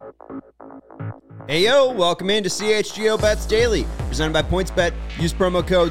Hey yo, welcome into CHGO Bets Daily, presented by PointsBet. Use promo code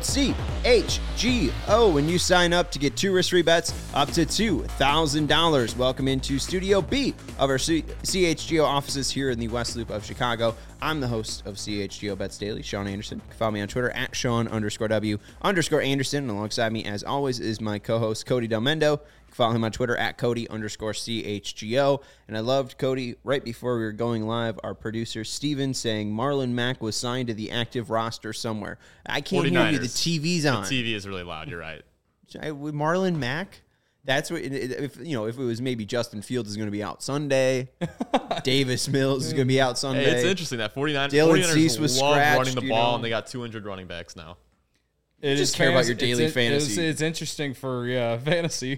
CHGO when you sign up to get 2 risk-free bets up to $2,000. Welcome into Studio B of our CHGO offices here in the West Loop of Chicago. I'm the host of CHGO Bets Daily, Sean Anderson. You can follow me on Twitter at Sean_W_Anderson. And alongside me, as always, is my co-host Cody Del Mendo. Follow him on Twitter at Cody_CHGO. And I loved, Cody, right before we were going live, our producer Steven saying Marlon Mack was signed to the active roster somewhere. I can't 49ers. hear you. The TV's on. The TV is really loud. You're right. With Marlon Mack? That's what, if it was maybe Justin Fields is going to be out Sunday, Davis Mills is going to be out Sunday. Hey, it's interesting that 49ers was love scratched, running the ball, and they got 200 running backs now. It just care about your daily fantasy. It's interesting for fantasy.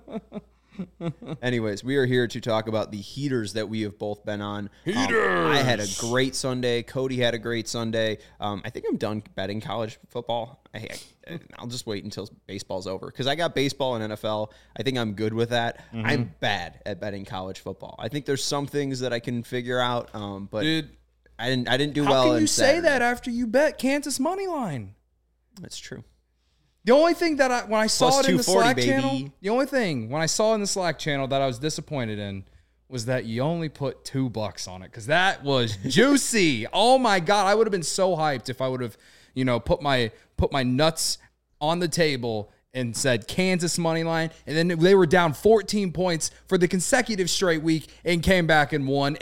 Anyways, we are here to talk about the heaters that we have both been on. I had a great Sunday. Cody had a great Sunday. I think I'm done betting college football. I'll just wait until baseball's over because I got baseball and NFL. I think I'm good with that. Mm-hmm. I'm bad at betting college football. I think there's some things that I can figure out, but Dude, I didn't do how well. How can you Saturday. say that after you bet Kansas money line? That's true. The only thing that when I saw it in the Slack channel, baby. the only thing when I saw in the Slack channel that I was disappointed in was that you only put $2 on it because that was juicy. Oh my God, I would have been so hyped if I would have, put my nuts on the table and said Kansas money line, and then they were down 14 points for the consecutive straight week and came back and won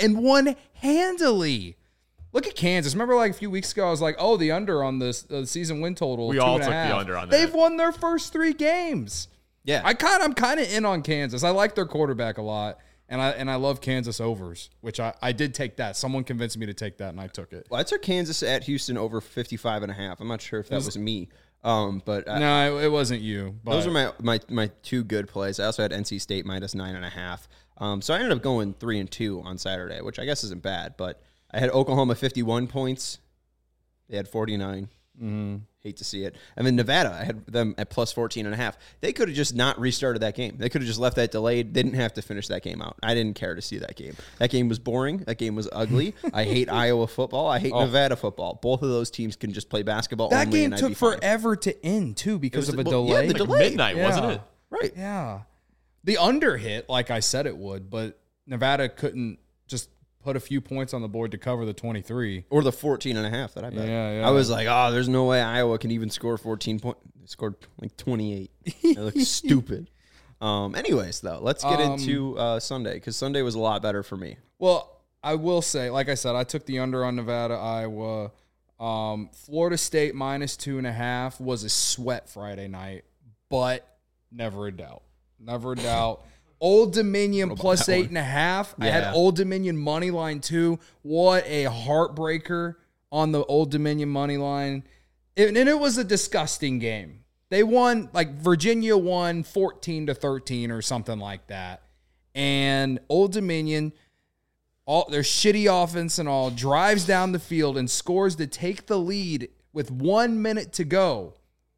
handily. Look at Kansas. Remember like a few weeks ago, I was like, oh, the under on the season win total. We all took the under on that. They've won their first 3 games. Yeah. I'm kind of in on Kansas. I like their quarterback a lot, and I love Kansas overs, which I did take that. Someone convinced me to take that, and I took it. Well, I took Kansas at Houston over 55.5. I'm not sure if that was me. But no, it wasn't you. But those are my 2 good plays. I also had NC State minus 9.5. So I ended up going 3-2 on Saturday, which I guess isn't bad, but I had Oklahoma 51 points. They had 49. Hate to see it. And then Nevada, I had them at plus 14.5. They could have just not restarted that game. They could have just left that delayed. They didn't have to finish that game out. I didn't care to see that game. That game was boring. That game was ugly. I hate Iowa football. I hate Nevada football. Both of those teams can just play basketball that only. That game took forever to end, too, because of a delay. Yeah, the delay. Midnight, wasn't it? Right. Yeah. The under hit like I said it would, but Nevada couldn't just put a few points on the board to cover the 23. Or the 14.5 that I bet. Yeah. I was like, oh, there's no way Iowa can even score 14 points. They scored like 28. It looks stupid. Anyways, though, let's get into Sunday, because Sunday was a lot better for me. Well, I will say, like I said, I took the under on Nevada, Iowa. Florida State minus 2.5 was a sweat Friday night, but never a doubt. Never a doubt. Old Dominion plus 8.5. Yeah. I had Old Dominion money line too. What a heartbreaker on the Old Dominion money line. And it was a disgusting game. They won, like Virginia won 14-13 or something like that. And Old Dominion, their shitty offense and all, drives down the field and scores to take the lead with 1 minute to go.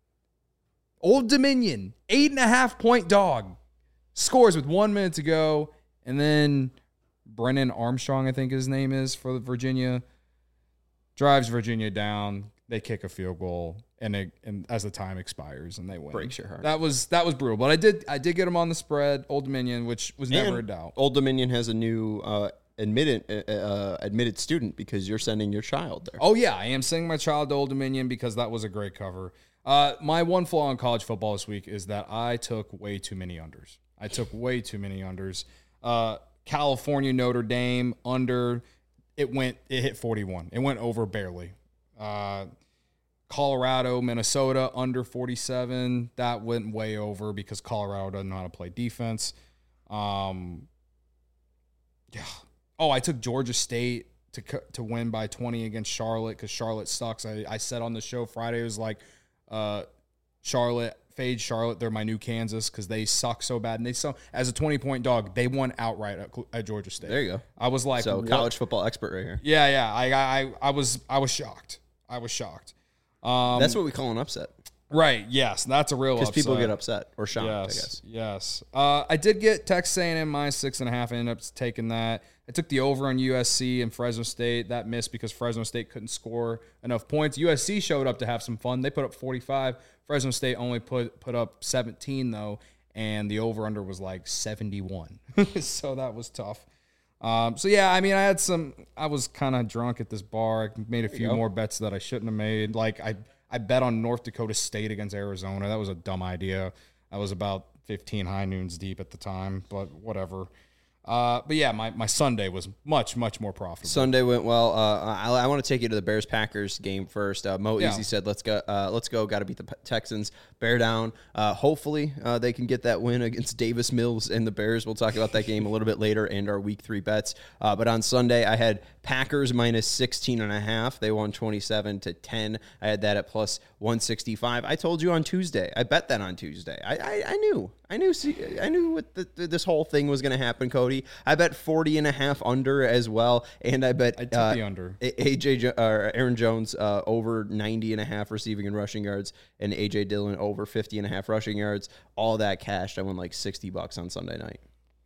Old Dominion, 8.5-point dog. Scores with 1 minute to go, and then Brennan Armstrong, I think his name is, for Virginia, drives Virginia down. They kick a field goal, and as the time expires, and they win. Breaks your heart. That was brutal, but I did get them on the spread, Old Dominion, which was never a doubt. Old Dominion has a new admitted student because you're sending your child there. Oh yeah, I am sending my child to Old Dominion because that was a great cover. My one flaw in college football this week is that I took way too many unders. California, Notre Dame, under. It hit 41. It went over barely. Colorado, Minnesota, under 47. That went way over because Colorado doesn't know how to play defense. Yeah. Oh, I took Georgia State to win by 20 against Charlotte because Charlotte sucks. I said on the show Friday, it was like fade Charlotte. They're my new Kansas because they suck so bad. And as a 20-point dog, they won outright at Georgia State. There you go. I was like, so college football expert right here. Yeah. I was shocked. That's what we call an upset. Right. Yes, that's a real Because upset. people get upset or shocked, I guess. Yes. I did get Texas A&M -6.5. I ended up taking that. I took the over on USC and Fresno State. That missed because Fresno State couldn't score enough points. USC showed up to have some fun. They put up 45. Fresno State only put up 17 though, and the over/under was like 71. So that was tough. So yeah, I mean, I was kind of drunk at this bar. I made a few more bets that I shouldn't have made. Like I bet on North Dakota State against Arizona. That was a dumb idea. I was about 15 high noons deep at the time, but whatever. But yeah, my Sunday was much more profitable. Sunday went well. I want to take you to the Bears-Packers game first. Mo Easy said, let's go. Got to beat the Texans. Bear down. Hopefully they can get that win against Davis Mills and the Bears. We'll talk about that game a little bit later and our week 3 bets. But on Sunday, I had Packers -16.5. They won 27-10. I had that at plus 165. I told you on Tuesday. I bet that on Tuesday. I knew what this whole thing was going to happen, Cody. I bet 40.5 under as well, and I bet I took the under. Aaron Jones over 90.5 receiving and rushing yards, and AJ Dillon over 50.5 rushing yards. All that cashed. I won like $60 on Sunday night.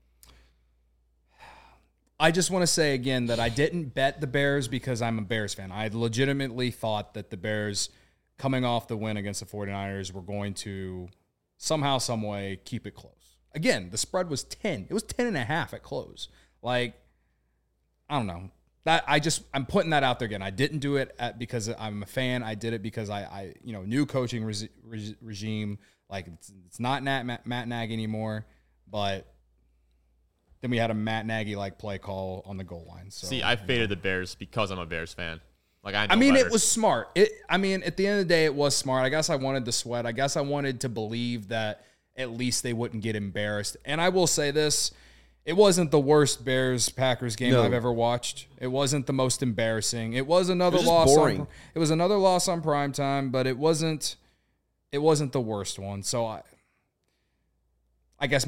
I just want to say again that I didn't bet the Bears because I'm a Bears fan. I legitimately thought that the Bears, coming off the win against the 49ers, were going to somehow, some way keep it close. Again, the spread was 10. It was 10.5 at close. Like, I don't know. I'm putting that out there again. I didn't do it because I'm a fan. I did it because I new coaching regime. Like, it's not Matt Nagy anymore, but then we had a Matt Nagy like play call on the goal line. So see, I faded the Bears because I'm a Bears fan. Like I mean, better. It was smart. At the end of the day, it was smart. I guess I wanted the sweat. I guess I wanted to believe that at least they wouldn't get embarrassed. And I will say this. It wasn't the worst Bears-Packers game I've ever watched. It wasn't the most embarrassing. It was another loss. It was another loss on primetime, but it wasn't the worst one. So I guess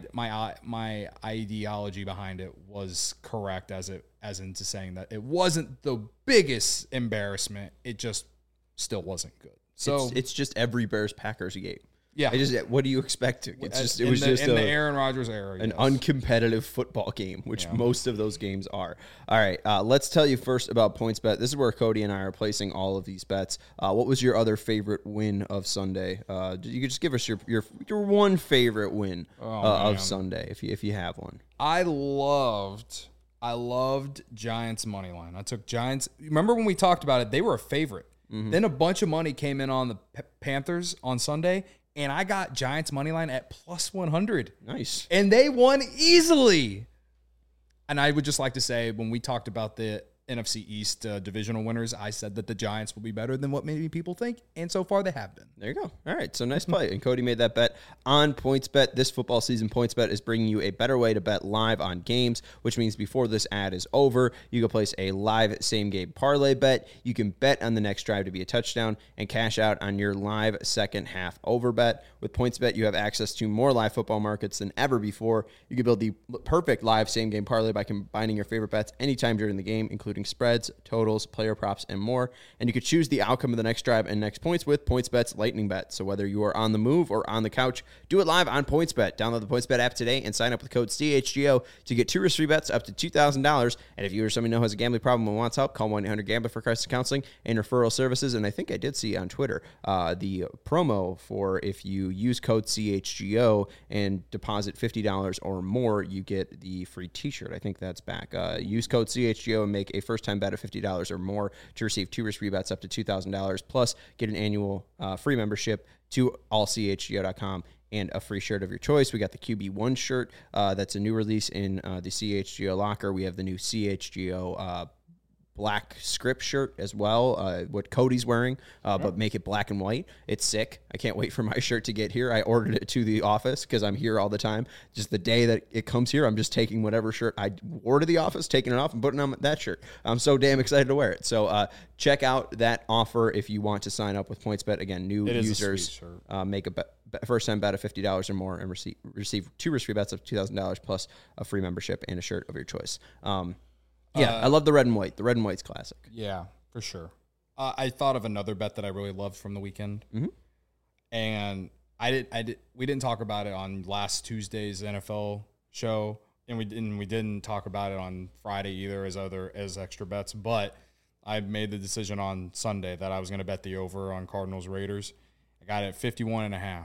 my ideology behind it was correct as into saying that it wasn't the biggest embarrassment. It just still wasn't good. So it's just every Bears-Packers game. Yeah. What do you expect? It was in just the Aaron Rodgers era. An uncompetitive football game, which most of those games are. All right, let's tell you first about PointsBet. This is where Cody and I are placing all of these bets. What was your other favorite win of Sunday? You could just give us your one favorite win of Sunday if you have one. I loved Giants money line. I took Giants. Remember when we talked about it? They were a favorite. Mm-hmm. Then a bunch of money came in on the Panthers on Sunday. And I got Giants money line at plus 100. Nice. And they won easily. And I would just like to say, when we talked about the NFC East divisional winners, I said that the Giants will be better than what maybe people think. And so far, they have been. There you go. All right. So nice play. And Cody made that bet on PointsBet. This football season, PointsBet is bringing you a better way to bet live on games, which means before this ad is over, you can place a live same-game parlay bet. You can bet on the next drive to be a touchdown and cash out on your live second-half over bet. With PointsBet, you have access to more live football markets than ever before. You can build the perfect live same-game parlay by combining your favorite bets anytime during the game, including spreads, totals, player props, and more. And you could choose the outcome of the next drive and next points with PointsBet's Lightning Bet. So whether you are on the move or on the couch, do it live on PointsBet. Download the PointsBet app today and sign up with code CHGO to get 2 risk-free bets up to $2,000. And if you or someone you know has a gambling problem and wants help, call 1-800-GAMBLER for crisis counseling and referral services. And I think I did see on Twitter the promo for if you use code CHGO and deposit $50 or more, you get the free t-shirt. I think that's back. Use code CHGO and make a first-time bet of $50 or more to receive 2 risk-free bets up to $2,000, plus get an annual free membership to allchgo.com and a free shirt of your choice. We got the QB1 shirt. That's a new release in the CHGO locker. We have the new CHGO black script shirt as well, what Cody's wearing, but make it black and white. It's sick. I can't wait for my shirt to get here. I ordered it to the office because I'm here all the time. Just the day that it comes here, I'm just taking whatever shirt I wore to the office, taking it off and putting on that shirt. I'm so damn excited to wear it. So check out that offer if you want to sign up with PointsBet. Again, new users make a first-time bet of $50 or more and receive 2 risk-free bets of $2,000 plus a free membership and a shirt of your choice. I love the red and white. The red and white's classic. Yeah, for sure. I thought of another bet that I really loved from the weekend. Mm-hmm. And we didn't talk about it on last Tuesday's NFL show, and we didn't talk about it on Friday either as extra bets. But I made the decision on Sunday that I was going to bet the over on Cardinals Raiders. I got it at 51.5.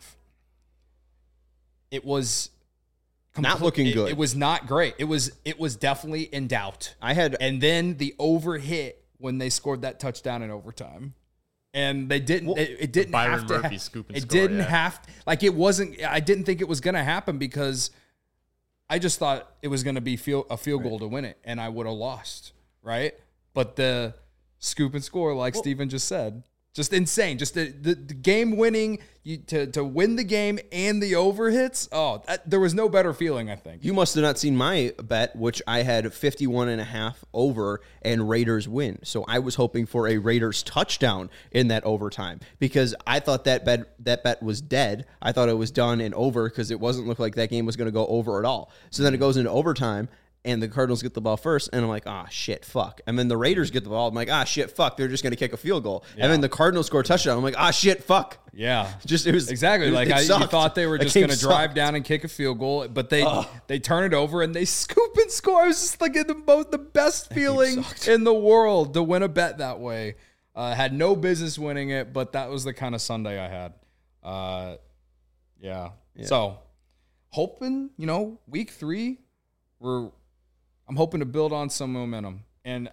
It was not looking good. It was not great. It was definitely in doubt. And then the over hit when they scored that touchdown in overtime. And they didn't. It didn't Byron have to. Murphy scoop and it score, didn't yeah. have. Like it wasn't. I didn't think it was going to happen because I just thought it was going to be a field goal to win it, and I would have lost, right? But the scoop and score, like Steven just said, just insane. Just the game winning to win the game and the over hits. Oh, there was no better feeling, I think. You must have not seen my bet, which I had 51.5 over and Raiders win. So I was hoping for a Raiders touchdown in that overtime because I thought that bet was dead. I thought it was done and over because it wasn't look like that game was going to go over at all. So then it goes into overtime. And the Cardinals get the ball first, and I'm like, shit, fuck. And then the Raiders get the ball. I'm like, shit, fuck. They're just going to kick a field goal. Yeah. And then the Cardinals score a touchdown. I'm like, shit, fuck. Yeah. It was exactly. You thought they were just going to drive down and kick a field goal, but they turn it over and they scoop and score. I was just like the best feeling in the world to win a bet that way. Had no business winning it, but that was the kind of Sunday I had. Yeah. So hoping, week 3, I'm hoping to build on some momentum. And,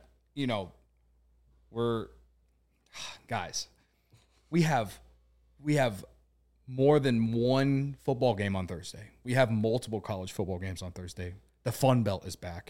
guys, we have more than one football game on Thursday. We have multiple college football games on Thursday. The Fun Belt is back.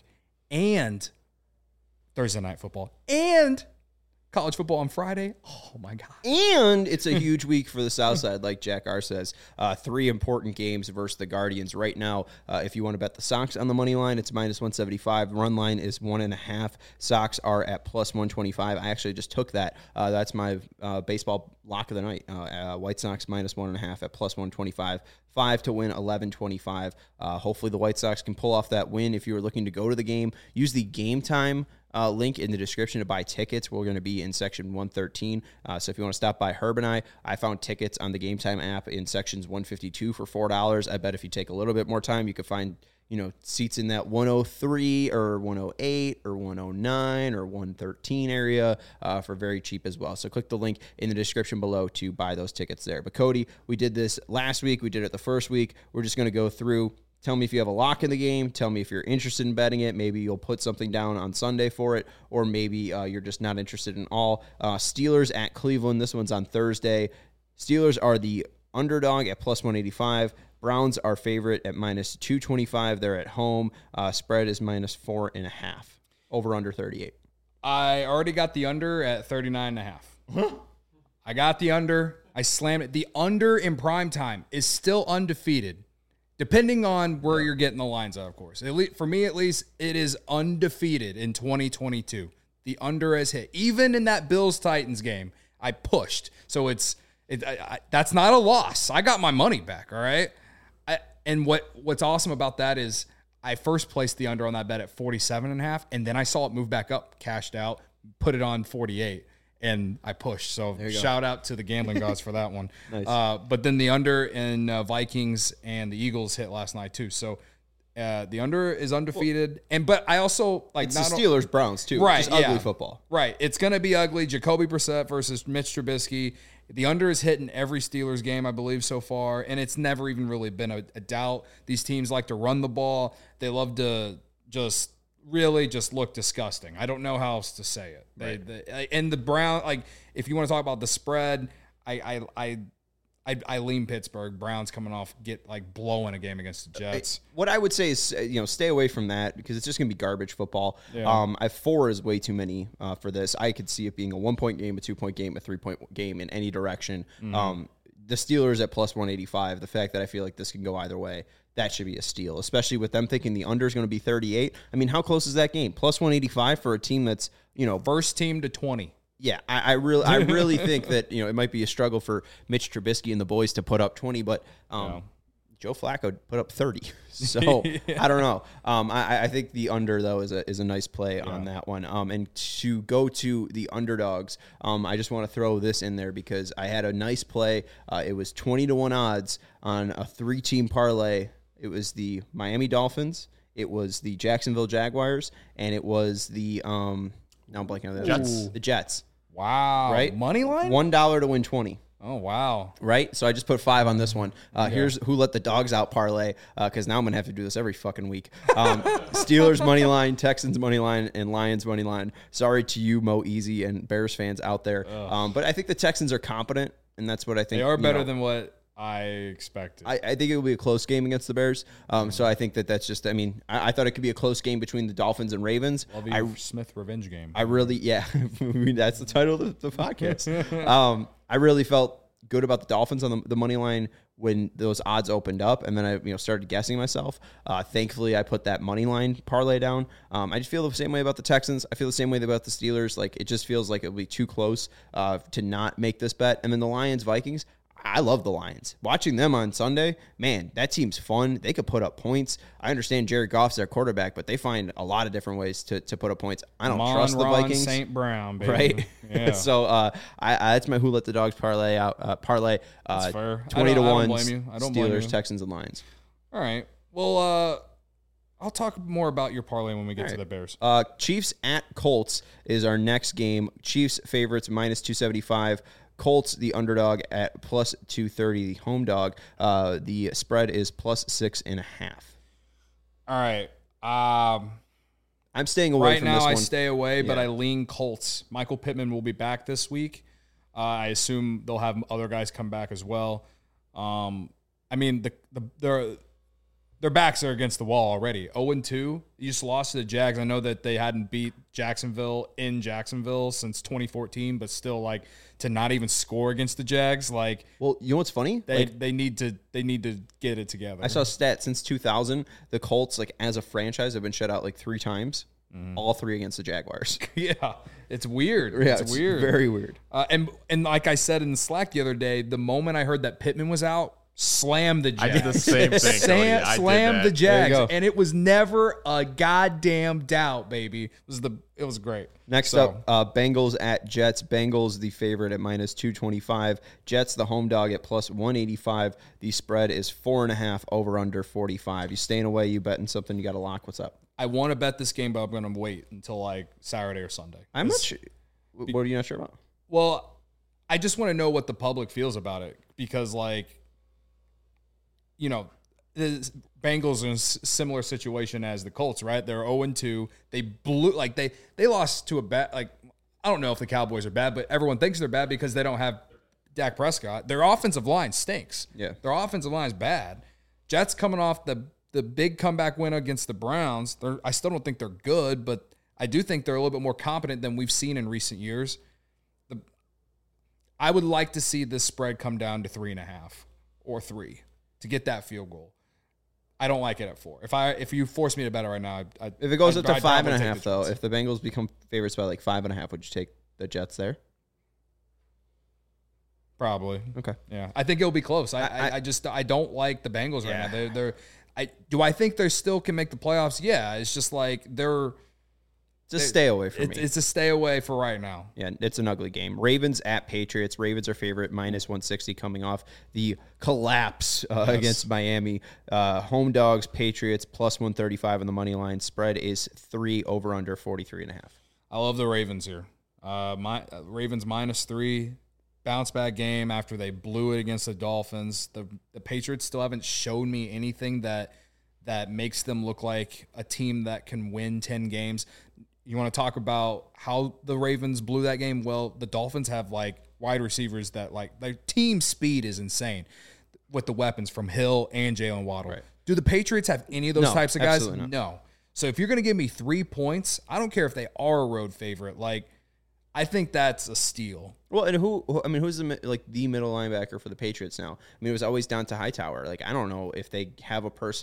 And Thursday night football. And college football on Friday. Oh, my God. And it's a huge week for the South Side, like Jack R. says. 3 important games versus the Guardians. Right now, if you want to bet the Sox on the money line, it's minus 175. Run line is 1.5. Sox are at plus 125. I actually just took that. That's my baseball lock of the night. White Sox minus 1.5 at plus 125. 5 to win, 11.25. Hopefully the White Sox can pull off that win. If you are looking to go to the game, use the Game Time link in the description to buy tickets. We're going to be in section 113. So if you want to stop by Herb and I found tickets on the Game Time app in sections 152 for $4. I bet if you take a little bit more time, you could find seats in that 103 or 108 or 109 or 113 area for very cheap as well. So click the link in the description below to buy those tickets there. But Cody, we did this last week. We did it the first week. We're just going to go through. Tell me if you have a lock in the game. Tell me if you're interested in betting it. Maybe you'll put something down on Sunday for it, or maybe you're just not interested in all. Steelers at Cleveland. This one's on Thursday. Steelers are the underdog at plus 185. Browns are favorite at minus 225. They're at home. Spread is minus 4.5. Over under 38. I already got the under at 39.5. I got the under. I slammed it. The under in prime time is still undefeated. Depending on where you're getting the lines at, of course. For me, at least, it is undefeated in 2022. The under has hit. Even in that Bills-Titans game, I pushed. So that's not a loss. I got my money back, all right? And what's awesome about that is I first placed the under on that bet at 47.5, and then I saw it move back up, cashed out, put it on 48. And I pushed. So shout out to the gambling gods for that one. Nice. But then the under in Vikings and the Eagles hit last night too. So the under is undefeated. But I also like it's the Steelers Browns too. Right, just ugly football. Right. It's gonna be ugly. Jacoby Brissett versus Mitch Trubisky. The under is hit in every Steelers game, I believe, so far, and it's never even really been a doubt. These teams like to run the ball. They love to just look disgusting. I don't know how else to say it. Right. And the Brown, if you want to talk about the spread, I lean Pittsburgh. Browns coming off blowing a game against the Jets. What I would say is stay away from that because it's just going to be garbage football. Yeah. 4 is way too many for this. I could see it being a 1-point game, a 2-point game, a 3-point game in any direction. Mm-hmm. The Steelers at plus 185. The fact that I feel like this can go either way. That should be a steal, especially with them thinking the under is going to be 38. I mean, how close is that game? Plus 185 for a team that's, first team to 20. Yeah, I really think that, it might be a struggle for Mitch Trubisky and the boys to put up 20, but Joe Flacco put up 30. So I don't know. I think the under though is a nice play on that one. And to go to the underdogs, I just want to throw this in there because I had a nice play. It was 20-1 odds on a 3-team parlay. It was the Miami Dolphins, it was the Jacksonville Jaguars, and it was the now I'm blanking on the Jets. The Jets. Wow. Right? Money line? $1 to win 20. Oh, wow. Right? So I just put 5 on this one. Here's who let the dogs out parlay, because now I'm going to have to do this every fucking week. Steelers money line, Texans money line, and Lions money line. Sorry to you, Mo Easy, and Bears fans out there. But I think the Texans are competent, and that's what I think. They are better than what I expected. I think it will be a close game against the Bears. So I think that's just, I mean, I thought it could be a close game between the Dolphins and Ravens. Lovie Smith revenge game. I really, I mean, that's the title of the podcast. I really felt good about the Dolphins on the money line when those odds opened up, and then I started guessing myself. Thankfully, I put that money line parlay down. I just feel the same way about the Texans. I feel the same way about the Steelers. Like, it just feels like it'll be too close to not make this bet. And then the Lions, Vikings. I love the Lions. Watching them on Sunday, man, that team's fun. They could put up points. I understand Jared Goff's their quarterback, but they find a lot of different ways to put up points. I don't trust the Vikings. St. Brown, baby. Right? Yeah. So that's my Who Let the Dogs parlay out. Parlay. That's fair. 20-1. I don't blame you. I don't blame you. Steelers, Texans, and Lions. All right. Well, I'll talk more about your parlay when we get to the Bears. Chiefs at Colts is our next game. Chiefs favorites minus 275. Colts, the underdog, at plus 230. The home dog, the spread is plus 6.5. All right. I'm staying away from this one. Right now, I stay away, but I lean Colts. Michael Pittman will be back this week. I assume they'll have other guys come back as well. I mean, their backs are against the wall already. 0-2. You just lost to the Jags. I know that they hadn't beat Jacksonville in Jacksonville since 2014, but still, like, to not even score against the Jags, like, well, you know what's funny? They need to get it together. I saw a stat since 2000, the Colts, like, as a franchise, have been shut out like 3 times. All 3 against the Jaguars. Yeah, it's weird. Yeah, it's weird. Very weird. And like I said in the Slack the other day, the moment I heard that Pittman was out, slam the Jags. I did the same thing. Slam the Jags, and it was never a goddamn doubt, baby. It was great. Next up, Bengals at Jets. Bengals the favorite at minus 225. Jets the home dog at plus 185. The spread is 4.5 over under 45. You staying away? You betting something? You got a lock? What's up? I want to bet this game, but I'm going to wait until like Saturday or Sunday. I'm not sure. What are you not sure about? Well, I just want to know what the public feels about it because, like, you know, the Bengals are in a similar situation as the Colts, right? They're 0-2. They blew, like, they lost to a bad, like, I don't know if the Cowboys are bad, but everyone thinks they're bad because they don't have Dak Prescott. Their offensive line stinks. Yeah. Their offensive line is bad. Jets coming off the big comeback win against the Browns. I still don't think they're good, but I do think they're a little bit more competent than we've seen in recent years. I would like to see this spread come down to 3.5 or 3 to get that field goal. I don't like it at 4. If you force me to bet it right now, if it goes up to 5.5 though, if the Bengals become favorites by like 5.5, would you take the Jets there? Probably. Okay. Yeah, I think it'll be close. I don't like the Bengals right now. Do I think they still can make the playoffs? Yeah, it's just like Just stay away from me. It's a stay away for right now. Yeah, it's an ugly game. Ravens at Patriots. Ravens are favorite, minus 160 coming off the collapse against Miami. Home dogs, Patriots, plus 135 on the money line. Spread is 3 over under 43.5. I love the Ravens here. Ravens minus 3. Bounce back game after they blew it against the Dolphins. The Patriots still haven't shown me anything that makes them look like a team that can win 10 games. You want to talk about how the Ravens blew that game? Well, the Dolphins have like wide receivers that like their team speed is insane with the weapons from Hill and Jalen Waddle. Right. Do the Patriots have any of those types of guys? No. So if you're going to give me 3 points, I don't care if they are a road favorite. Like, I think that's a steal. Well, and who's the middle linebacker for the Patriots now? I mean, it was always down to Hightower. Like, I don't know if they have a person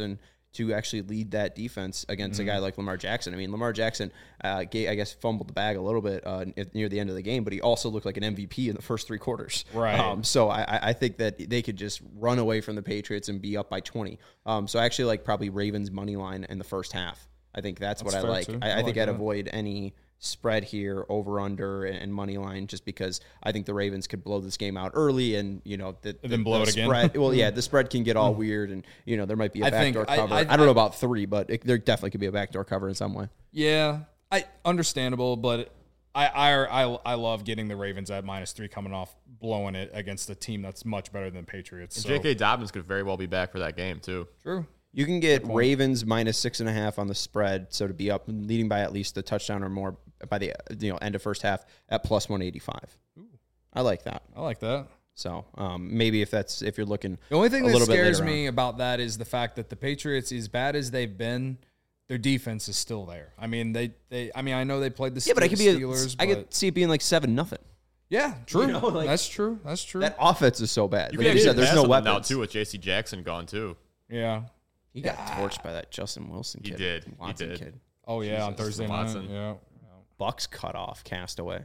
to actually lead that defense against a guy like Lamar Jackson. I mean, Lamar Jackson, I guess, fumbled the bag a little bit near the end of the game, but he also looked like an MVP in the first 3 quarters. Right. So I think that they could just run away from the Patriots and be up by 20. So I actually like probably Ravens money line in the first half. I think that's what I like. I think I'd avoid any spread here, over under and money line, just because I think the Ravens could blow this game out early, and then blow it spread, again. Well, yeah, the spread can get all weird, and there might be a backdoor cover. I don't know about 3, but there definitely could be a backdoor cover in some way. Yeah, understandable, but I love getting the Ravens at -3 coming off blowing it against a team that's much better than Patriots. And J.K. Dobbins could very well be back for that game too. True. You can get Ravens -6.5 on the spread, so to be up leading by at least a touchdown or more by the end of first half at +185. Ooh. I like that. So maybe if you're looking, the only thing that scares me about that is the fact that the Patriots, as bad as they've been, their defense is still there. I mean, I know they played the Steelers. I could see it being like 7-0. Yeah, true. That's true. That offense is so bad. Like you said, there's no weapons now too with J.C. Jackson gone too. Yeah. He got torched by that Justin Wilson kid. He did. Kid. Oh, yeah, Jesus, on Thursday night. Yeah. Bucks cut off, castaway.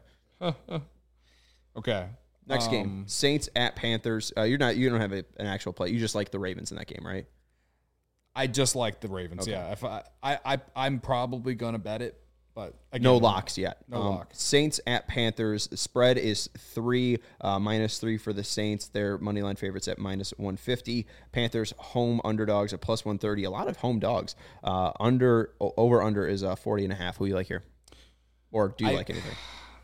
Okay. Next game, Saints at Panthers. You don't have an actual play. You just like the Ravens in that game, right? I just like the Ravens, okay. Yeah. If I'm probably going to bet it, but again, no locks yet. No locks. Saints at Panthers. Spread is 3, -3 for the Saints. Their money line favorites at -150. Panthers home underdogs at +130. A lot of home dogs. Over under is 40.5. Who you like here? Or do you like anything?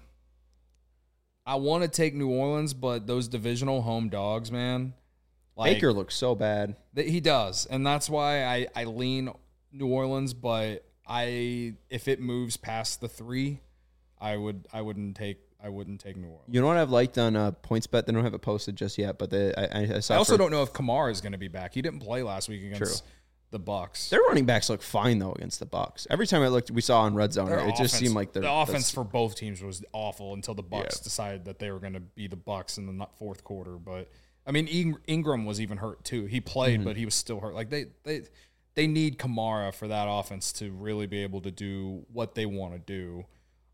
I want to take New Orleans, but those divisional home dogs, man. Baker looks so bad. He does, and that's why I lean New Orleans, but if it moves past the 3, I wouldn't take New Orleans. You know what I've liked on PointsBet? They don't have it posted just yet, but I saw. I also don't know if Kamara is going to be back. He didn't play last week against the Bucks. Their running backs look fine though against the Bucks. Every time I looked, we saw on Red Zone, it just seemed like the offense for both teams was awful until the Bucks decided that they were going to be the Bucks in the fourth quarter. But I mean, Ingram was even hurt too. He played, but he was still hurt. Like they need Kamara for that offense to really be able to do what they want to do.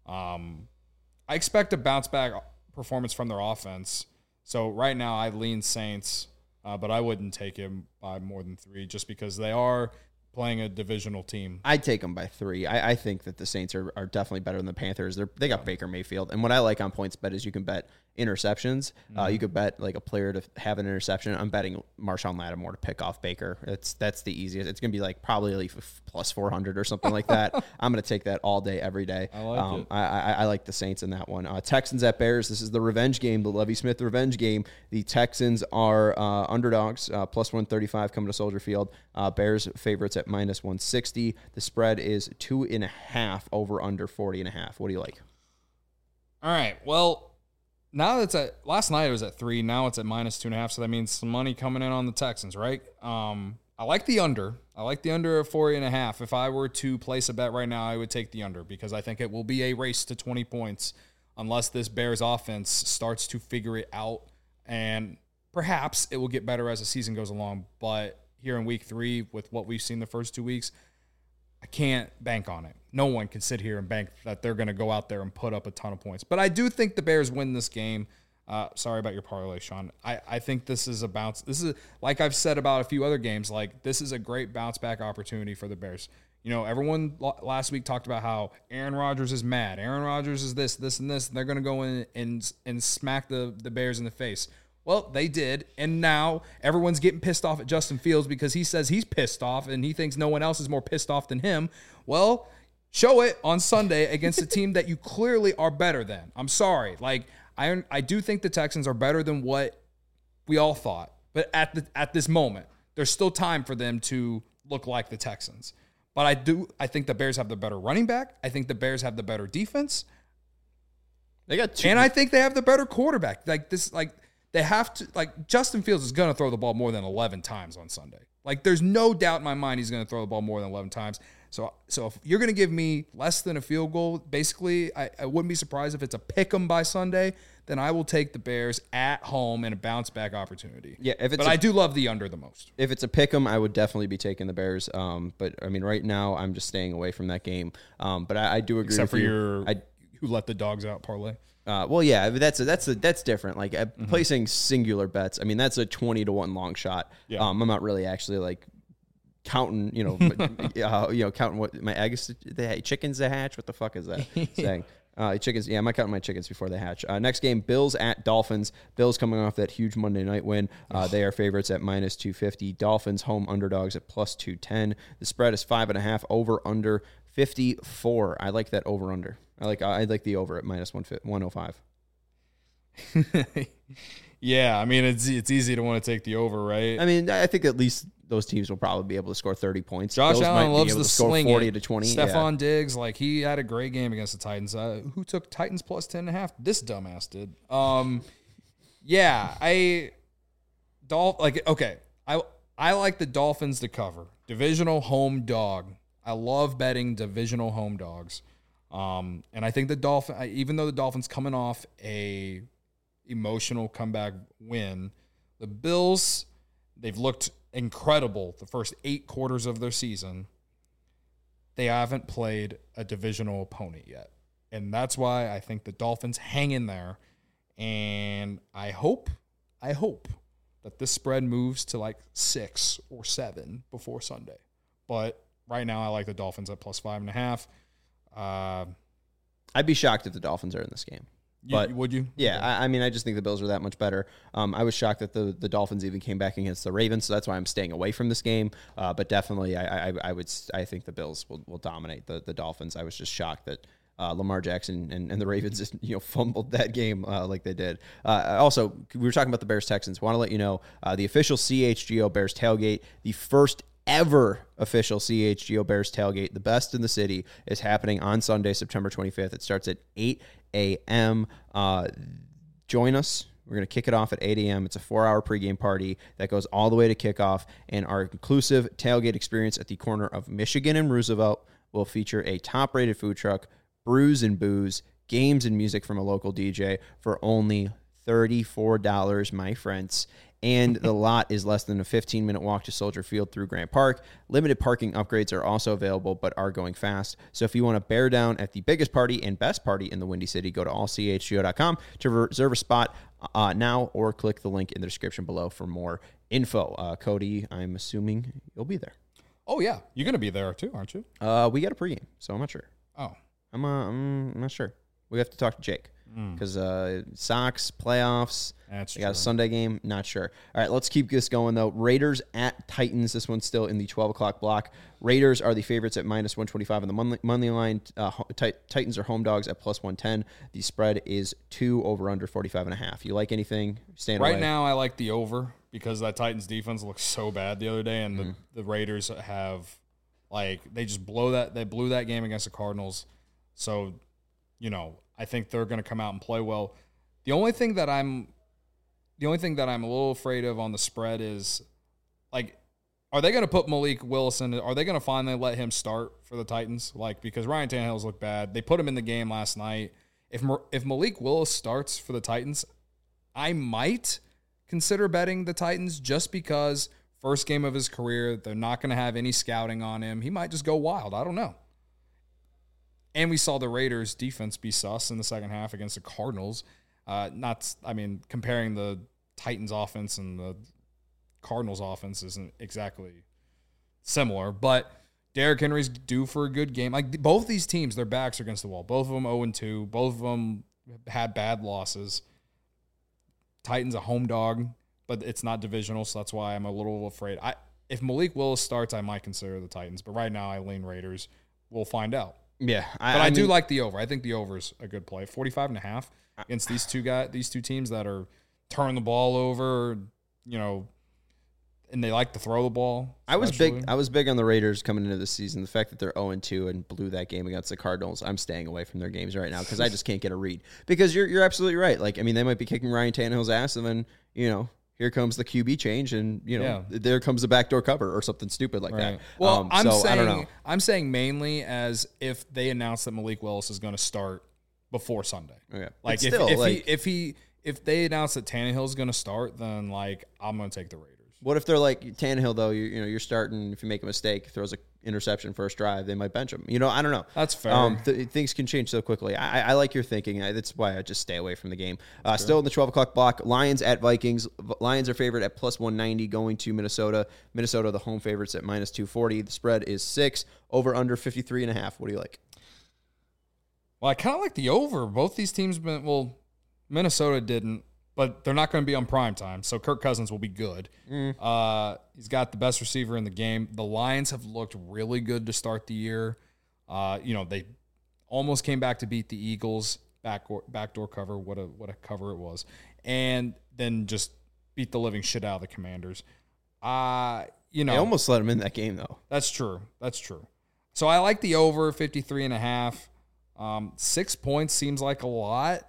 I expect a bounce back performance from their offense. So right now I lean Saints, but I wouldn't take him by more than 3 just because they are playing a divisional team. I'd take them by 3. I think that the Saints are definitely better than the Panthers. They got Baker Mayfield. And what I like on PointsBet is you can bet interceptions. You could bet like a player to have an interception. I'm betting Marshawn Lattimore to pick off Baker. That's the easiest. It's going to be like probably like plus 400 or something like that. I'm going to take that all day, every day. I like it. I like the Saints in that one. Texans at Bears. This is the revenge game, the Lovie Smith revenge game. The Texans are underdogs, plus 135 coming to Soldier Field. Bears favorites at -160. The spread is 2.5 over under 40.5. What do you like? All right. Well, now last night it was at 3. Now it's at -2.5. So that means some money coming in on the Texans, right? I like the under. I like the under of 40.5. If I were to place a bet right now, I would take the under because I think it will be a race to 20 points unless this Bears offense starts to figure it out. And perhaps it will get better as the season goes along. But here in week 3, with what we've seen the first 2 weeks, I can't bank on it. No one can sit here and bank that they're going to go out there and put up a ton of points. But I do think the Bears win this game. Sorry about your parlay, Sean. I think this is a bounce. This is, like I've said about a few other games, like this is a great bounce back opportunity for the Bears. You know, everyone last week talked about how Aaron Rodgers is mad. Aaron Rodgers is this, and this. And they're going to go in and smack the Bears in the face. Well, they did, and now everyone's getting pissed off at Justin Fields because he says he's pissed off and he thinks no one else is more pissed off than him. Well, show it on Sunday against a team that you clearly are better than. I'm sorry. Like, I do think the Texans are better than what we all thought, but at this moment, there's still time for them to look like the Texans. But I think the Bears have the better running back. I think the Bears have the better defense. They got 2. And I think they have the better quarterback. They have to, Justin Fields is going to throw the ball more than 11 times on Sunday. Like, there's no doubt in my mind he's going to throw the ball more than 11 times. So if you're going to give me less than a field goal, basically, I wouldn't be surprised if it's a pick 'em by Sunday. Then I will take the Bears at home in a bounce back opportunity. Yeah, I do love the under the most. If it's a pick 'em, I would definitely be taking the Bears. But I mean, right now I'm just staying away from that game. But I do agree. Except with for who let the dogs out parlay. Well, yeah, that's different. Like placing singular bets. I mean, that's a 20-1 long shot. Yeah. I'm not really actually like counting. Counting what my eggs, the chickens that hatch. What the fuck is that saying? Chickens. Yeah, I'm not counting my chickens before they hatch. Next game, Bills at Dolphins. Bills coming off that huge Monday night win. They are favorites at -250. Dolphins home underdogs at +210. The spread is 5.5. Over under 54. I like that over under. I like the over at -105. Yeah, I mean it's easy to want to take the over, right? I mean, I think at least those teams will probably be able to score 30 points. Josh Allen loves the sling. 40 to 20. Stephon Diggs, like he had a great game against the Titans. Who took Titans +10.5? This dumbass did. Yeah, I like the Dolphins to cover. Divisional home dog. I love betting divisional home dogs. And I think even though the Dolphins coming off a emotional comeback win, the Bills, they've looked incredible the first 8 quarters of their season. They haven't played a divisional opponent yet. And that's why I think the Dolphins hang in there. And I hope that this spread moves to like 6 or 7 before Sunday. But right now I like the Dolphins at +5.5. I'd be shocked if the Dolphins are in this game. But would you? Yeah, okay. I mean, I just think the Bills are that much better. I was shocked that the Dolphins even came back against the Ravens, so that's why I'm staying away from this game. But definitely, I think the Bills will dominate the Dolphins. I was just shocked that Lamar Jackson and the Ravens just fumbled that game like they did. Also, we were talking about the Bears-Texans. Want to let you know the official CHGO Bears tailgate, the first ever official CHGO Bears tailgate, the best in the city, is happening on Sunday, September 25th. It starts at 8 a.m. Join us. We're going to kick it off at 8 a.m. It's a 4-hour pregame party that goes all the way to kickoff, and our inclusive tailgate experience at the corner of Michigan and Roosevelt will feature a top-rated food truck, brews and booze, games and music from a local DJ for only $34, my friends. And the lot is less than a 15-minute walk to Soldier Field through Grant Park. Limited parking upgrades are also available, but are going fast. So if you want to bear down at the biggest party and best party in the Windy City, go to allchgo.com to reserve a spot now, or click the link in the description below for more info. Cody, I'm assuming you'll be there. Oh, yeah. You're going to be there too, aren't you? We got a pregame, so I'm not sure. Oh. I'm not sure. We have to talk to Jake. Because Sox, playoffs, we got a Sunday game, not sure. All right, let's keep this going, though. Raiders at Titans. This one's still in the 12 o'clock block. Raiders are the favorites at -125 on the money line. Titans are home dogs at +110. The spread is 2 over under 45.5. You like anything? Staying right away? Now, I like the over because that Titans defense looked so bad the other day, and the Raiders have, they just blew that game against the Cardinals. So, I think they're going to come out and play well. The only thing that I'm a little afraid of on the spread is, are they going to put Malik Willis in? Are they going to finally let him start for the Titans? Because Ryan Tannehill's looked bad. They put him in the game last night. If Malik Willis starts for the Titans, I might consider betting the Titans just because first game of his career, they're not going to have any scouting on him. He might just go wild. I don't know. And we saw the Raiders' defense be sus in the second half against the Cardinals. Comparing the Titans' offense and the Cardinals' offense isn't exactly similar. But Derrick Henry's due for a good game. Both these teams, their backs are against the wall. Both of them 0-2. Both of them had bad losses. Titans a home dog, but it's not divisional, so that's why I'm a little afraid. If Malik Willis starts, I might consider the Titans. But right now, I lean Raiders. We'll find out. Yeah, I do like the over. I think the over is a good play. 45.5 against these two teams that are turning the ball over, and they like to throw the ball. Especially. I was big on the Raiders coming into this season. The fact that they're 0-2 and blew that game against the Cardinals, I'm staying away from their games right now because I just can't get a read. Because you're absolutely right. They might be kicking Ryan Tannehill's ass, and then here comes the QB change, and there comes the backdoor cover or something stupid like that. Well, I don't know. I'm saying mainly as if they announce that Malik Willis is going to start before Sunday. Okay. Like if they announce that Tannehill's going to start, then like I'm going to take the Raiders. What if they're like Tannehill though? You're starting. If you make a mistake, throws an interception first drive, they might bench him. I don't know. That's fair. Things can change so quickly. I like your thinking. That's why I just stay away from the game. Still in the 12 o'clock block. Lions at Vikings. Lions are favored at plus 190 going to Minnesota. Minnesota the home favorites at minus 240. The spread is 6. Over under 53.5. What do you like? Well, I kind of like the over. Both these teams Minnesota didn't, but they're not going to be on prime time, so Kirk Cousins will be good. He's got the best receiver in the game. The Lions have looked really good to start the year. They almost came back to beat the Eagles, backdoor cover. What a cover it was, and then just beat the living shit out of the Commanders. They almost let them in that game though. That's true. So I like the over 53.5. 6 points seems like a lot.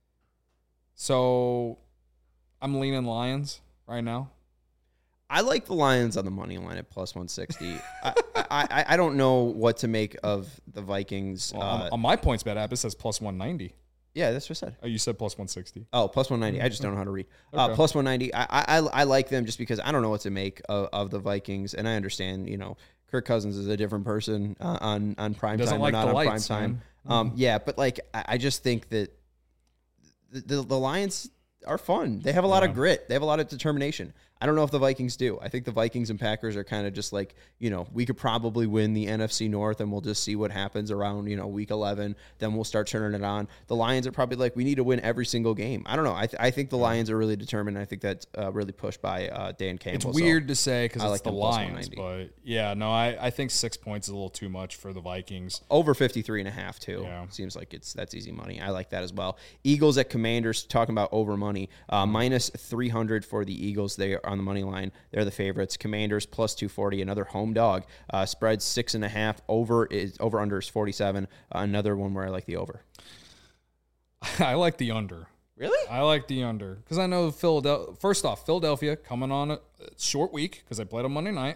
So I'm leaning Lions right now. I like the Lions on the money line at plus 160. I don't know what to make of the Vikings. On my points bet app, it says plus 190. Yeah, that's what I said. Oh, you said plus 160. Oh, plus 190. I just don't know how to read. Okay. Plus 190. I like them just because I don't know what to make of the Vikings, and I understand. Kirk Cousins is a different person on prime time or not on prime time. Yeah, but like I just think that the Lions are fun. They have a lot of grit. They have a lot of determination. I don't know if the Vikings do. I think the Vikings and Packers are kind of just like, we could probably win the NFC North and we'll just see what happens around, week 11. Then we'll start turning it on. The Lions are probably like, we need to win every single game. I don't know. I think the Lions are really determined. I think that's really pushed by Dan Campbell. It's weird to say because it's like the Lions, but I think 6 points is a little too much for the Vikings. Over 53.5 too. Yeah. Seems like that's easy money. I like that as well. Eagles at Commanders, talking about over money. Minus 300 for the Eagles. They are on the money line. They're the favorites. Commanders plus 240, another home dog. Spread 6.5. Over under is 47. Another one where I like the over. I like the under. Really? I like the under because I know Philadelphia. First off, Philadelphia coming on a short week because they played on Monday night.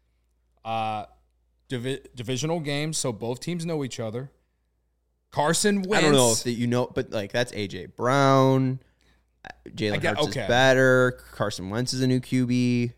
Divisional game, so both teams know each other. Carson Wentz. I don't know if but like that's AJ Brown. Jalen Hurts is better. Carson Wentz is a new QB.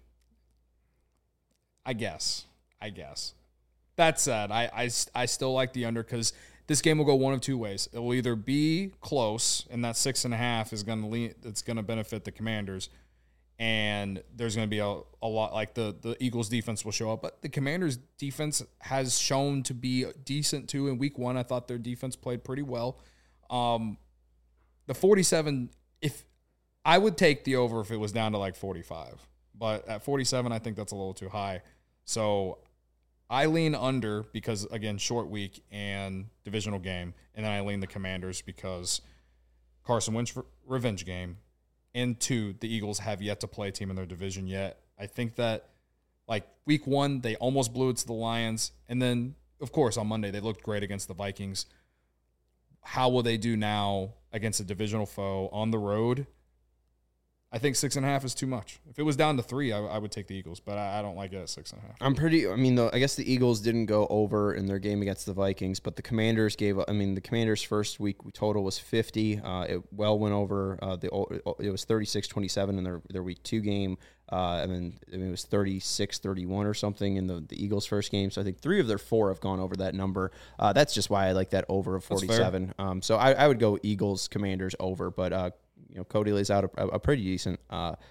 I guess. That said, I still like the under because this game will go one of two ways. It will either be close, and that 6.5 is going to it's going to benefit the Commanders, and there's going to be a lot like the Eagles defense will show up, but the Commanders defense has shown to be decent too. In week 1, I thought their defense played pretty well. The 47, if I would take the over if it was down to like 45, but at 47, I think that's a little too high. So I lean under because, again, short week and divisional game, and then I lean the Commanders because Carson Wentz revenge game, and 2, the Eagles have yet to play a team in their division yet. I think that, like, week 1, they almost blew it to the Lions, and then, of course, on Monday, they looked great against the Vikings. How will they do now against a divisional foe on the road? I think 6.5 is too much. If it was down to 3, I would take the Eagles, but I don't like it at 6.5. I guess the Eagles didn't go over in their game against the Vikings, but the Commanders the Commanders' first week total was 50. It well went over. It was 36-27 in their week 2 game. And then it was 36-31 or something in the Eagles' first game. So I think 3 of their 4 have gone over that number. That's just why I like that over of 47. So I would go Eagles, Commanders over, but Cody lays out a pretty decent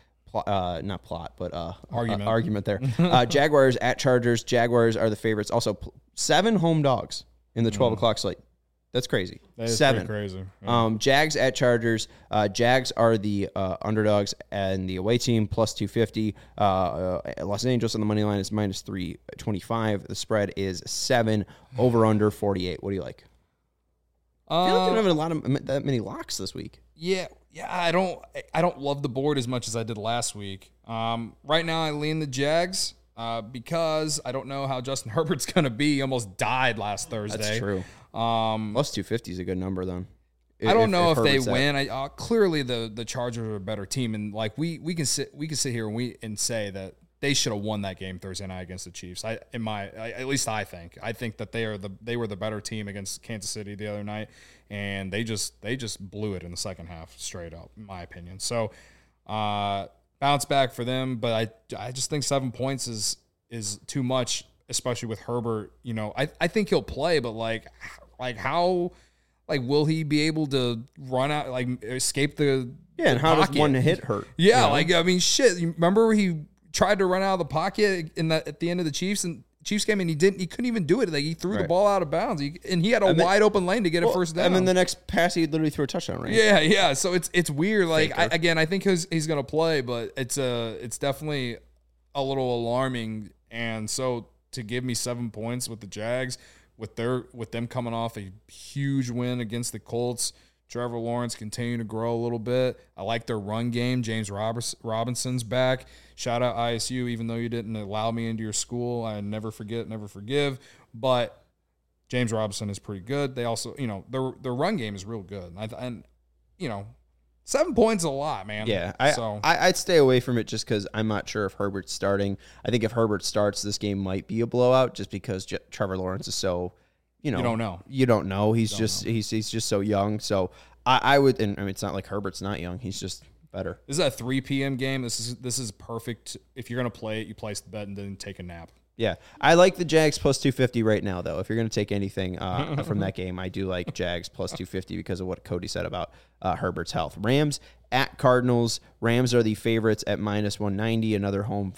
argument there. Jaguars at Chargers. Jaguars are the favorites. Also, 7 home dogs in the 12 o'clock slate. That's crazy. That is 7. crazy. Yeah. Jags at Chargers. Jags are the underdogs and the away team plus 250. Los Angeles on the money line is minus 325. The spread is 7. Over under 48. What do you like? I feel like they don't have that many locks this week. Yeah, I don't love the board as much as I did last week. Right now, I lean the Jags because I don't know how Justin Herbert's going to be. He almost died last Thursday. That's true. Plus 250 is a good number, then. I don't know if they win. Clearly the Chargers are a better team, and like we can sit here and say that they should have won that game Thursday night against the Chiefs. At least I think that they were the better team against Kansas City the other night, and they just blew it in the second half straight up, in my opinion. So bounce back for them, but I just think 7 points is too much, especially with Herbert. You know, I think he'll play, but like how. Like, will he be able to run out, like, escape the and how pocket? Does one hit hurt? Yeah, you know? Like, I mean, shit. You remember he tried to run out of the pocket at the end of the Chiefs game, and he couldn't even do it. Like, he threw the ball out of bounds, and he had a wide open lane to get a first down. And then the next pass, he literally threw a touchdown, right? Yeah. So it's weird. Like, I think he's gonna play, but it's definitely a little alarming. And so to give me 7 points with the Jags. With them coming off a huge win against the Colts, Trevor Lawrence continuing to grow a little bit. I like their run game. James Robinson's back. Shout out ISU, even though you didn't allow me into your school. I never forget, never forgive. But James Robinson is pretty good. They also, you know, their run game is real good. And you know, 7 points is a lot, man. Yeah, I'd stay away from it just because I'm not sure if Herbert's starting. I think if Herbert starts, this game might be a blowout just because Trevor Lawrence is so, you know. You don't know. He's just so young. So I would, and I mean, it's not like Herbert's not young. He's just better. This is a 3 p.m. game. This is perfect. If you're going to play it, you place the bet and then take a nap. Yeah, I like the Jags plus 250 right now, though. If you're going to take anything from that game, I do like Jags plus 250 because of what Cody said about Herbert's health. Rams at Cardinals. Rams are the favorites at minus 190. Another home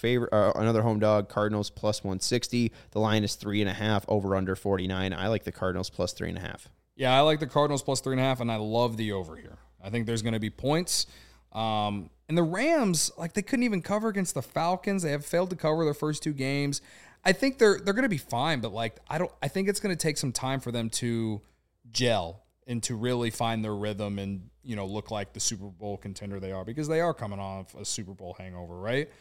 dog. Cardinals plus 160. The line is 3.5. Over under 49. I like the Cardinals plus 3.5. Yeah, I like the Cardinals plus 3.5, and I love the over here. I think there's going to be points. And the Rams, like, they couldn't even cover against the Falcons. They have failed to cover their first 2 games. I think they're going to be fine, but like I think it's going to take some time for them to gel and to really find their rhythm and, you know, look like the Super Bowl contender they are, because they are coming off a Super Bowl hangover, right?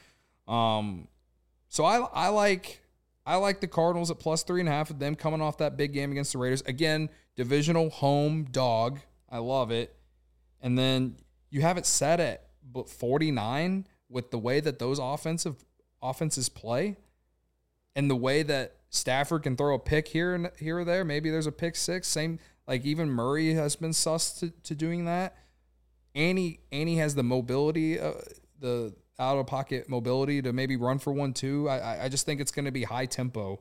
So I like the Cardinals at plus 3.5 of them coming off that big game against the Raiders. Again, divisional home dog. I love it. And then you have it set at 49 with the way that those offenses play. And the way that Stafford can throw a pick here or there, maybe there's a pick 6. Same, like even Murray has been sus to doing that. Annie has the mobility, the out of pocket mobility to maybe run for 1 too. I just think it's going to be high tempo,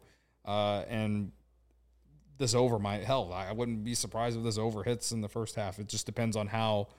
and this over might hell. I wouldn't be surprised if this over hits in the first half. It just depends on how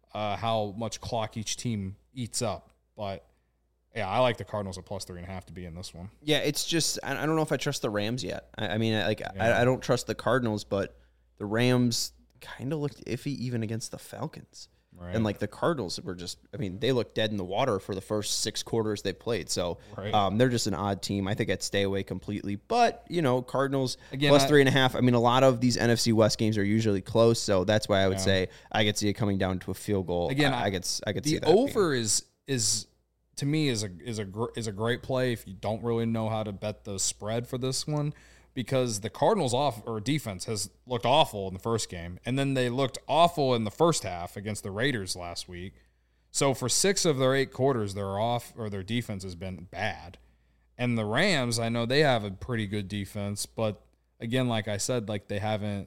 much clock each team eats up, but. Yeah, I like the Cardinals at plus 3.5 to be in this one. Yeah, it's just I don't know if I trust the Rams yet. I don't trust the Cardinals, but the Rams kind of looked iffy even against the Falcons. Right. And like the Cardinals were just, I mean, they looked dead in the water for the first 6 quarters they played. So they're just an odd team. I think I'd stay away completely. But, you know, Cardinals again, plus 3.5. I mean, a lot of these NFC West games are usually close. So that's why I would say I could see it coming down to a field goal. Again, I could see that. The over is to me is a great play if you don't really know how to bet the spread for this one, because the Cardinals defense has looked awful in the first game, and then they looked awful in the first half against the Raiders last week. So for 6 of their 8 quarters, their defense has been bad. And the Rams, I know they have a pretty good defense, but again, like I said, like they're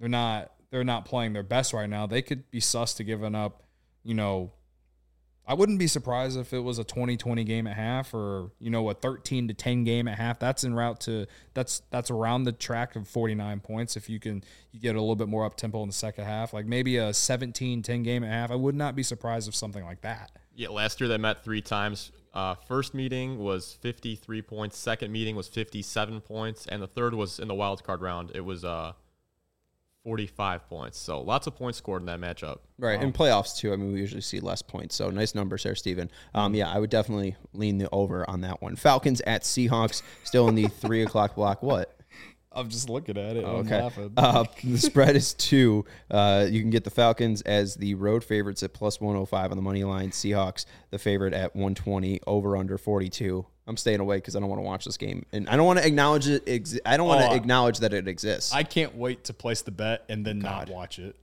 not playing their best right now. They could be sus to giving up, you know, I wouldn't be surprised if it was a 20-20 game at half, or, you know, a 13-10 game at half. That's en route to that's around the track of 49 points. If you get a little bit more up tempo in the second half, like maybe a 17-10 game at half, I would not be surprised if something like that. Yeah, last year they met 3 times. First meeting was 53 points. Second meeting was 57 points, and the third was in the wild card round. It was 45 points. So lots of points scored in that matchup. Right. In playoffs too. I mean, we usually see less points. So nice numbers there, Steven. Yeah, I would definitely lean the over on that one. Falcons at Seahawks, still in the 3 o'clock block. What? I'm just looking at it. Okay. I'm laughing. The spread is 2. You can get the Falcons as the road favorites at plus 105 on the money line. Seahawks, the favorite at 120, over under 42. I'm staying away because I don't want to watch this game, and I don't want to acknowledge it. I don't want to acknowledge that it exists. I can't wait to place the bet and then not watch it.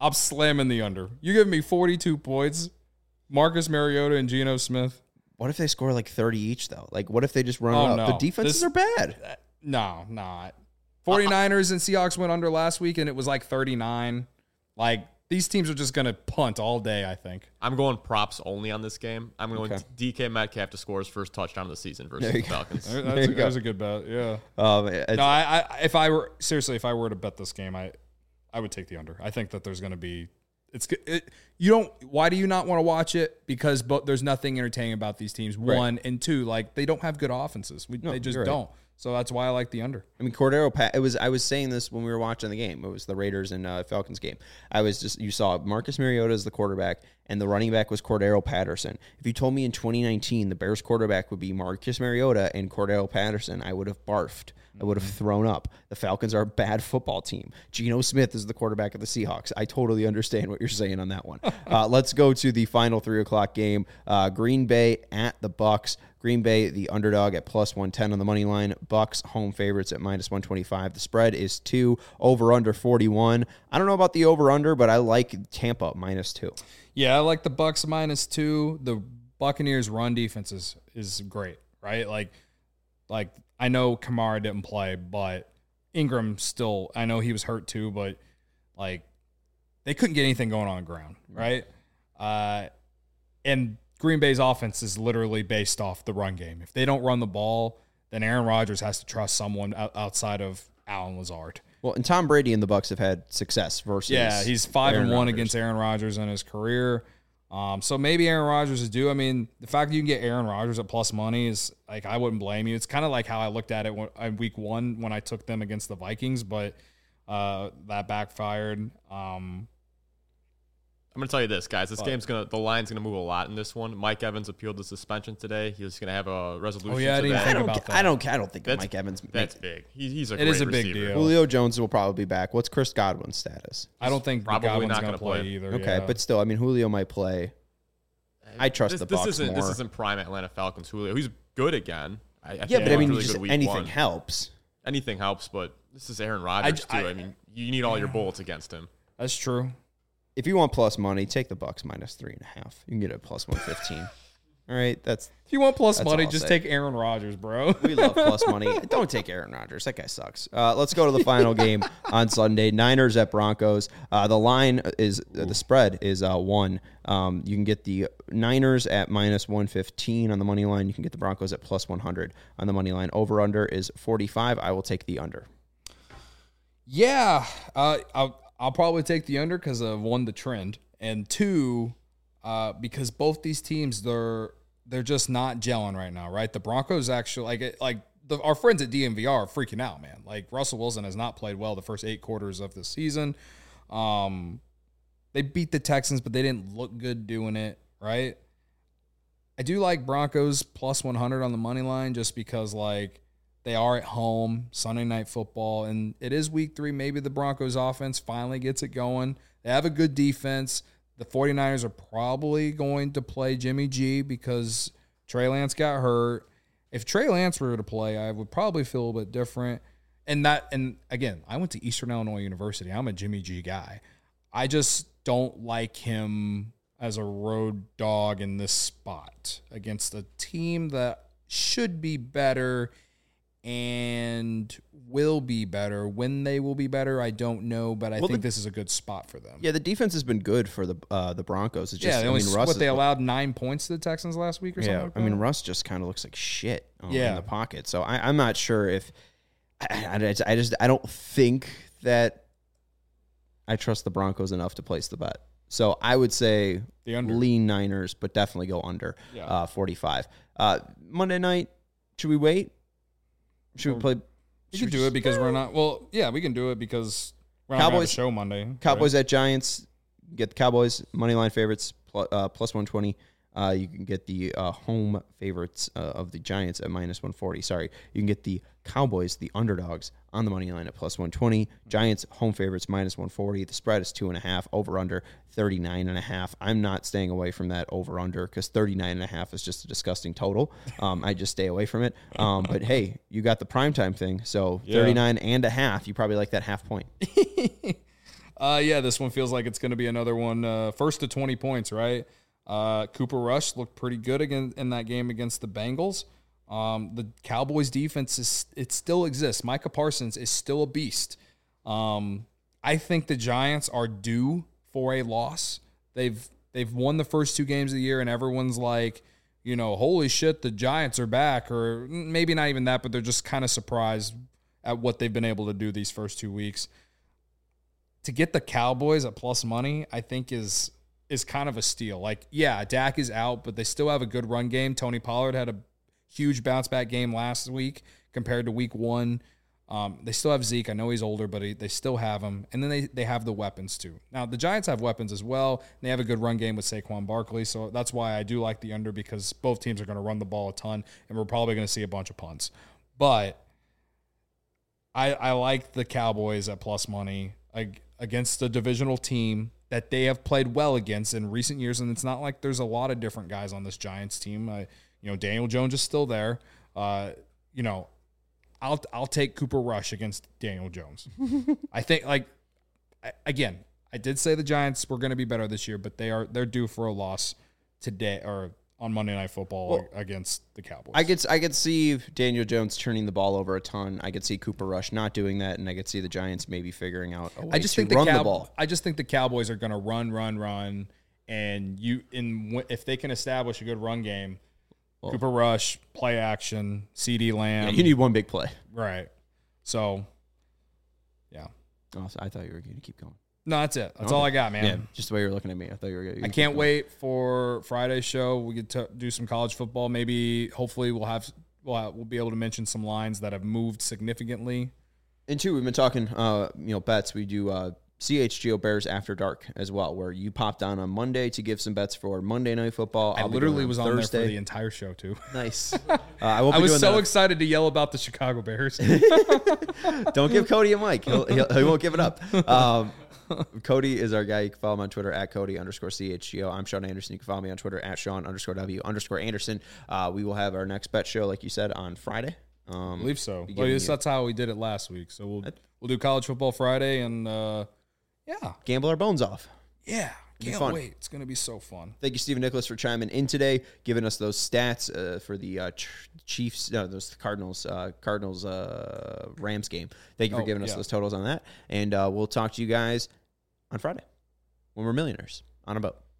I'm slamming the under. You give me 42 points, Marcus Mariota and Geno Smith. What if they score like 30 each, though? Like, what if they just run Oh, it up? no. The defenses are bad. No, not. 49ers and Seahawks went under last week, and it was like 39. Like, these teams are just going to punt all day, I think. I'm going props only on this game. I'm going DK Metcalf to score his first touchdown of the season versus the Falcons. That's a good bet, yeah. No, if I were to bet this game, I would take the under. I think that there's going to be why do you not want to watch it? Because there's nothing entertaining about these teams. Right. One, and two, like they don't have good offenses. They just don't. So that's why I like the under. I mean, I was saying this when we were watching the game. It was the Raiders and Falcons game. You saw Marcus Mariota as the quarterback, and the running back was Cordero Patterson. If you told me in 2019 the Bears quarterback would be Marcus Mariota and Cordero Patterson, I would have barfed. I would have thrown up. The Falcons are a bad football team. Geno Smith is the quarterback of the Seahawks. I totally understand what you're saying on that one. Let's go to the final 3 o'clock game. Green Bay at the Bucs. Green Bay, the underdog at plus 110 on the money line. Bucs, home favorites at minus 125. The spread is 2, over-under 41. I don't know about the over-under, but I like Tampa minus 2. Yeah, I like the Bucs minus 2. The Buccaneers' run defense is great, right? Like I know Kamara didn't play, but Ingram still, I know he was hurt too, but like they couldn't get anything going on the ground, right? And Green Bay's offense is literally based off the run game. If they don't run the ball, then Aaron Rodgers has to trust someone outside of Allen Lazard. Well, and Tom Brady and the Bucs have had success versus he's 5-1 against Aaron Rodgers in his career. So maybe Aaron Rodgers is due. I mean, the fact that you can get Aaron Rodgers at plus money is like, I wouldn't blame you. It's kind of like how I looked at it in week 1 when I took them against the Vikings, but that backfired. I'm going to tell you this, guys. The line's going to move a lot in this one. Mike Evans appealed the suspension today. He's going to have a resolution. Oh, yeah, I didn't think about that. I don't think Mike Evans. That's big. He's a great receiver. Big deal. Julio Jones will probably be back. What's Chris Godwin's status? I don't think probably Godwin's not going to play either. Okay, but still, I mean, Julio might play. I trust the Bucs more. This isn't prime Atlanta Falcons Julio. He's good again. But I mean, anything helps. Anything helps, but this is Aaron Rodgers too. I mean, you need all your bullets against him. That's true. If you want plus money, take the Bucs minus 3.5. You can get it plus 115. All right, if you want plus money, just take Aaron Rodgers, bro. We love plus money. Don't take Aaron Rodgers. That guy sucks. Let's go to the final game on Sunday. Niners at Broncos. The spread is 1. You can get the Niners at minus 115 on the money line. You can get the Broncos at plus 100 on the money line. Over under is 45. I will take the under. Yeah, I'll probably take the under because of 1, the trend, and 2, because both these teams they're just not gelling right now, right? The Broncos actually our friends at DMVR are freaking out, man. Like Russell Wilson has not played well the first 8 quarters of the season. They beat the Texans, but they didn't look good doing it, right? I do like Broncos plus 100 on the money line just because like they are at home, Sunday Night Football, and it is week 3. Maybe the Broncos offense finally gets it going. They have a good defense. The 49ers are probably going to play Jimmy G because Trey Lance got hurt. If Trey Lance were to play, I would probably feel a little bit different. And again, I went to Eastern Illinois University. I'm a Jimmy G guy. I just don't like him as a road dog in this spot against a team that should be better and will be better. When they will be better, I don't know, but I think this is a good spot for them. Yeah, the defense has been good for the Broncos. It's just, Russ they allowed 9 points to the Texans last week or something like that? I mean, Russ just kind of looks like shit in the pocket. So I'm not sure if I don't think that I trust the Broncos enough to place the bet. So I would say lean Niners, but definitely go under 45. Monday night, should we wait? Should we play? We can do it because we're not. Well, yeah, we can do it because we're not going to have a show Monday. Cowboys at Giants. Get the Cowboys money line favorites plus 120. You can get the home favorites of the Giants at minus 140. Sorry, you can get the Cowboys, the underdogs, on the money line at plus 120. Giants home favorites minus 140. The spread is 2.5. Over under 39.5. I'm not staying away from that over under because 39.5 is just a disgusting total. I just stay away from it. But hey, you got the primetime thing, so 39.5. You probably like that half point. Yeah, this one feels like it's going to be another one. First to 20 points, right? Cooper Rush looked pretty good again in that game against the Bengals. The Cowboys defense it still exists. Micah Parsons is still a beast. I think the Giants are due for a loss. They've won the first 2 games of the year, and everyone's like, holy shit, the Giants are back, or maybe not even that, but they're just kind of surprised at what they've been able to do these first 2 weeks. To get the Cowboys at plus money, I think is kind of a steal. Like, yeah, Dak is out, but they still have a good run game. Tony Pollard had a huge bounce back game last week compared to week 1. They still have Zeke. I know he's older, but they still have him. And then they have the weapons too. Now, the Giants have weapons as well. They have a good run game with Saquon Barkley. So that's why I do like the under, because both teams are going to run the ball a ton, and we're probably going to see a bunch of punts. But I like the Cowboys at plus money against a divisional team that they have played well against in recent years. And it's not like there's a lot of different guys on this Giants team. Daniel Jones is still there. I'll take Cooper Rush against Daniel Jones. I think, again, I did say the Giants were going to be better this year, but they're due for a loss today or on Monday Night Football against the Cowboys. I could see Daniel Jones turning the ball over a ton. I could see Cooper Rush not doing that, and I could see the Giants maybe figuring out a way to run the ball. I just think the Cowboys are going to run, and if they can establish a good run game, Cooper Rush, play action, CeeDee Lamb. Yeah, you need one big play. Right. So, yeah. Oh, so I thought you were going to keep going. No, that's it. That's all I got, man. Yeah, just the way you're looking at me. I thought you were going to I can't wait for Friday's show. We get to do some college football. Maybe, hopefully, we'll be able to mention some lines that have moved significantly. And two, we've been talking, bets. We do CHGO Bears After Dark as well, where you popped on Monday to give some bets for Monday Night Football. I literally was on there for the entire show, too. Nice. I was so excited to yell about the Chicago Bears. Don't give Cody a mic. He won't give it up. Cody is our guy. You can follow him on Twitter at Cody_CHGO. I'm Sean Anderson. You can follow me on Twitter at Sean_W_Anderson. We will have our next bet show, like you said, on Friday. I believe so. That's how we did it last week. So we'll do college football Friday, and gamble our bones off. Yeah. Can't wait. It's going to be so fun. Thank you, Stephen Nicholas, for chiming in today, giving us those stats for the Cardinals Rams game. Thank you for giving us those totals on that. And we'll talk to you guys on Friday when we're millionaires on a boat.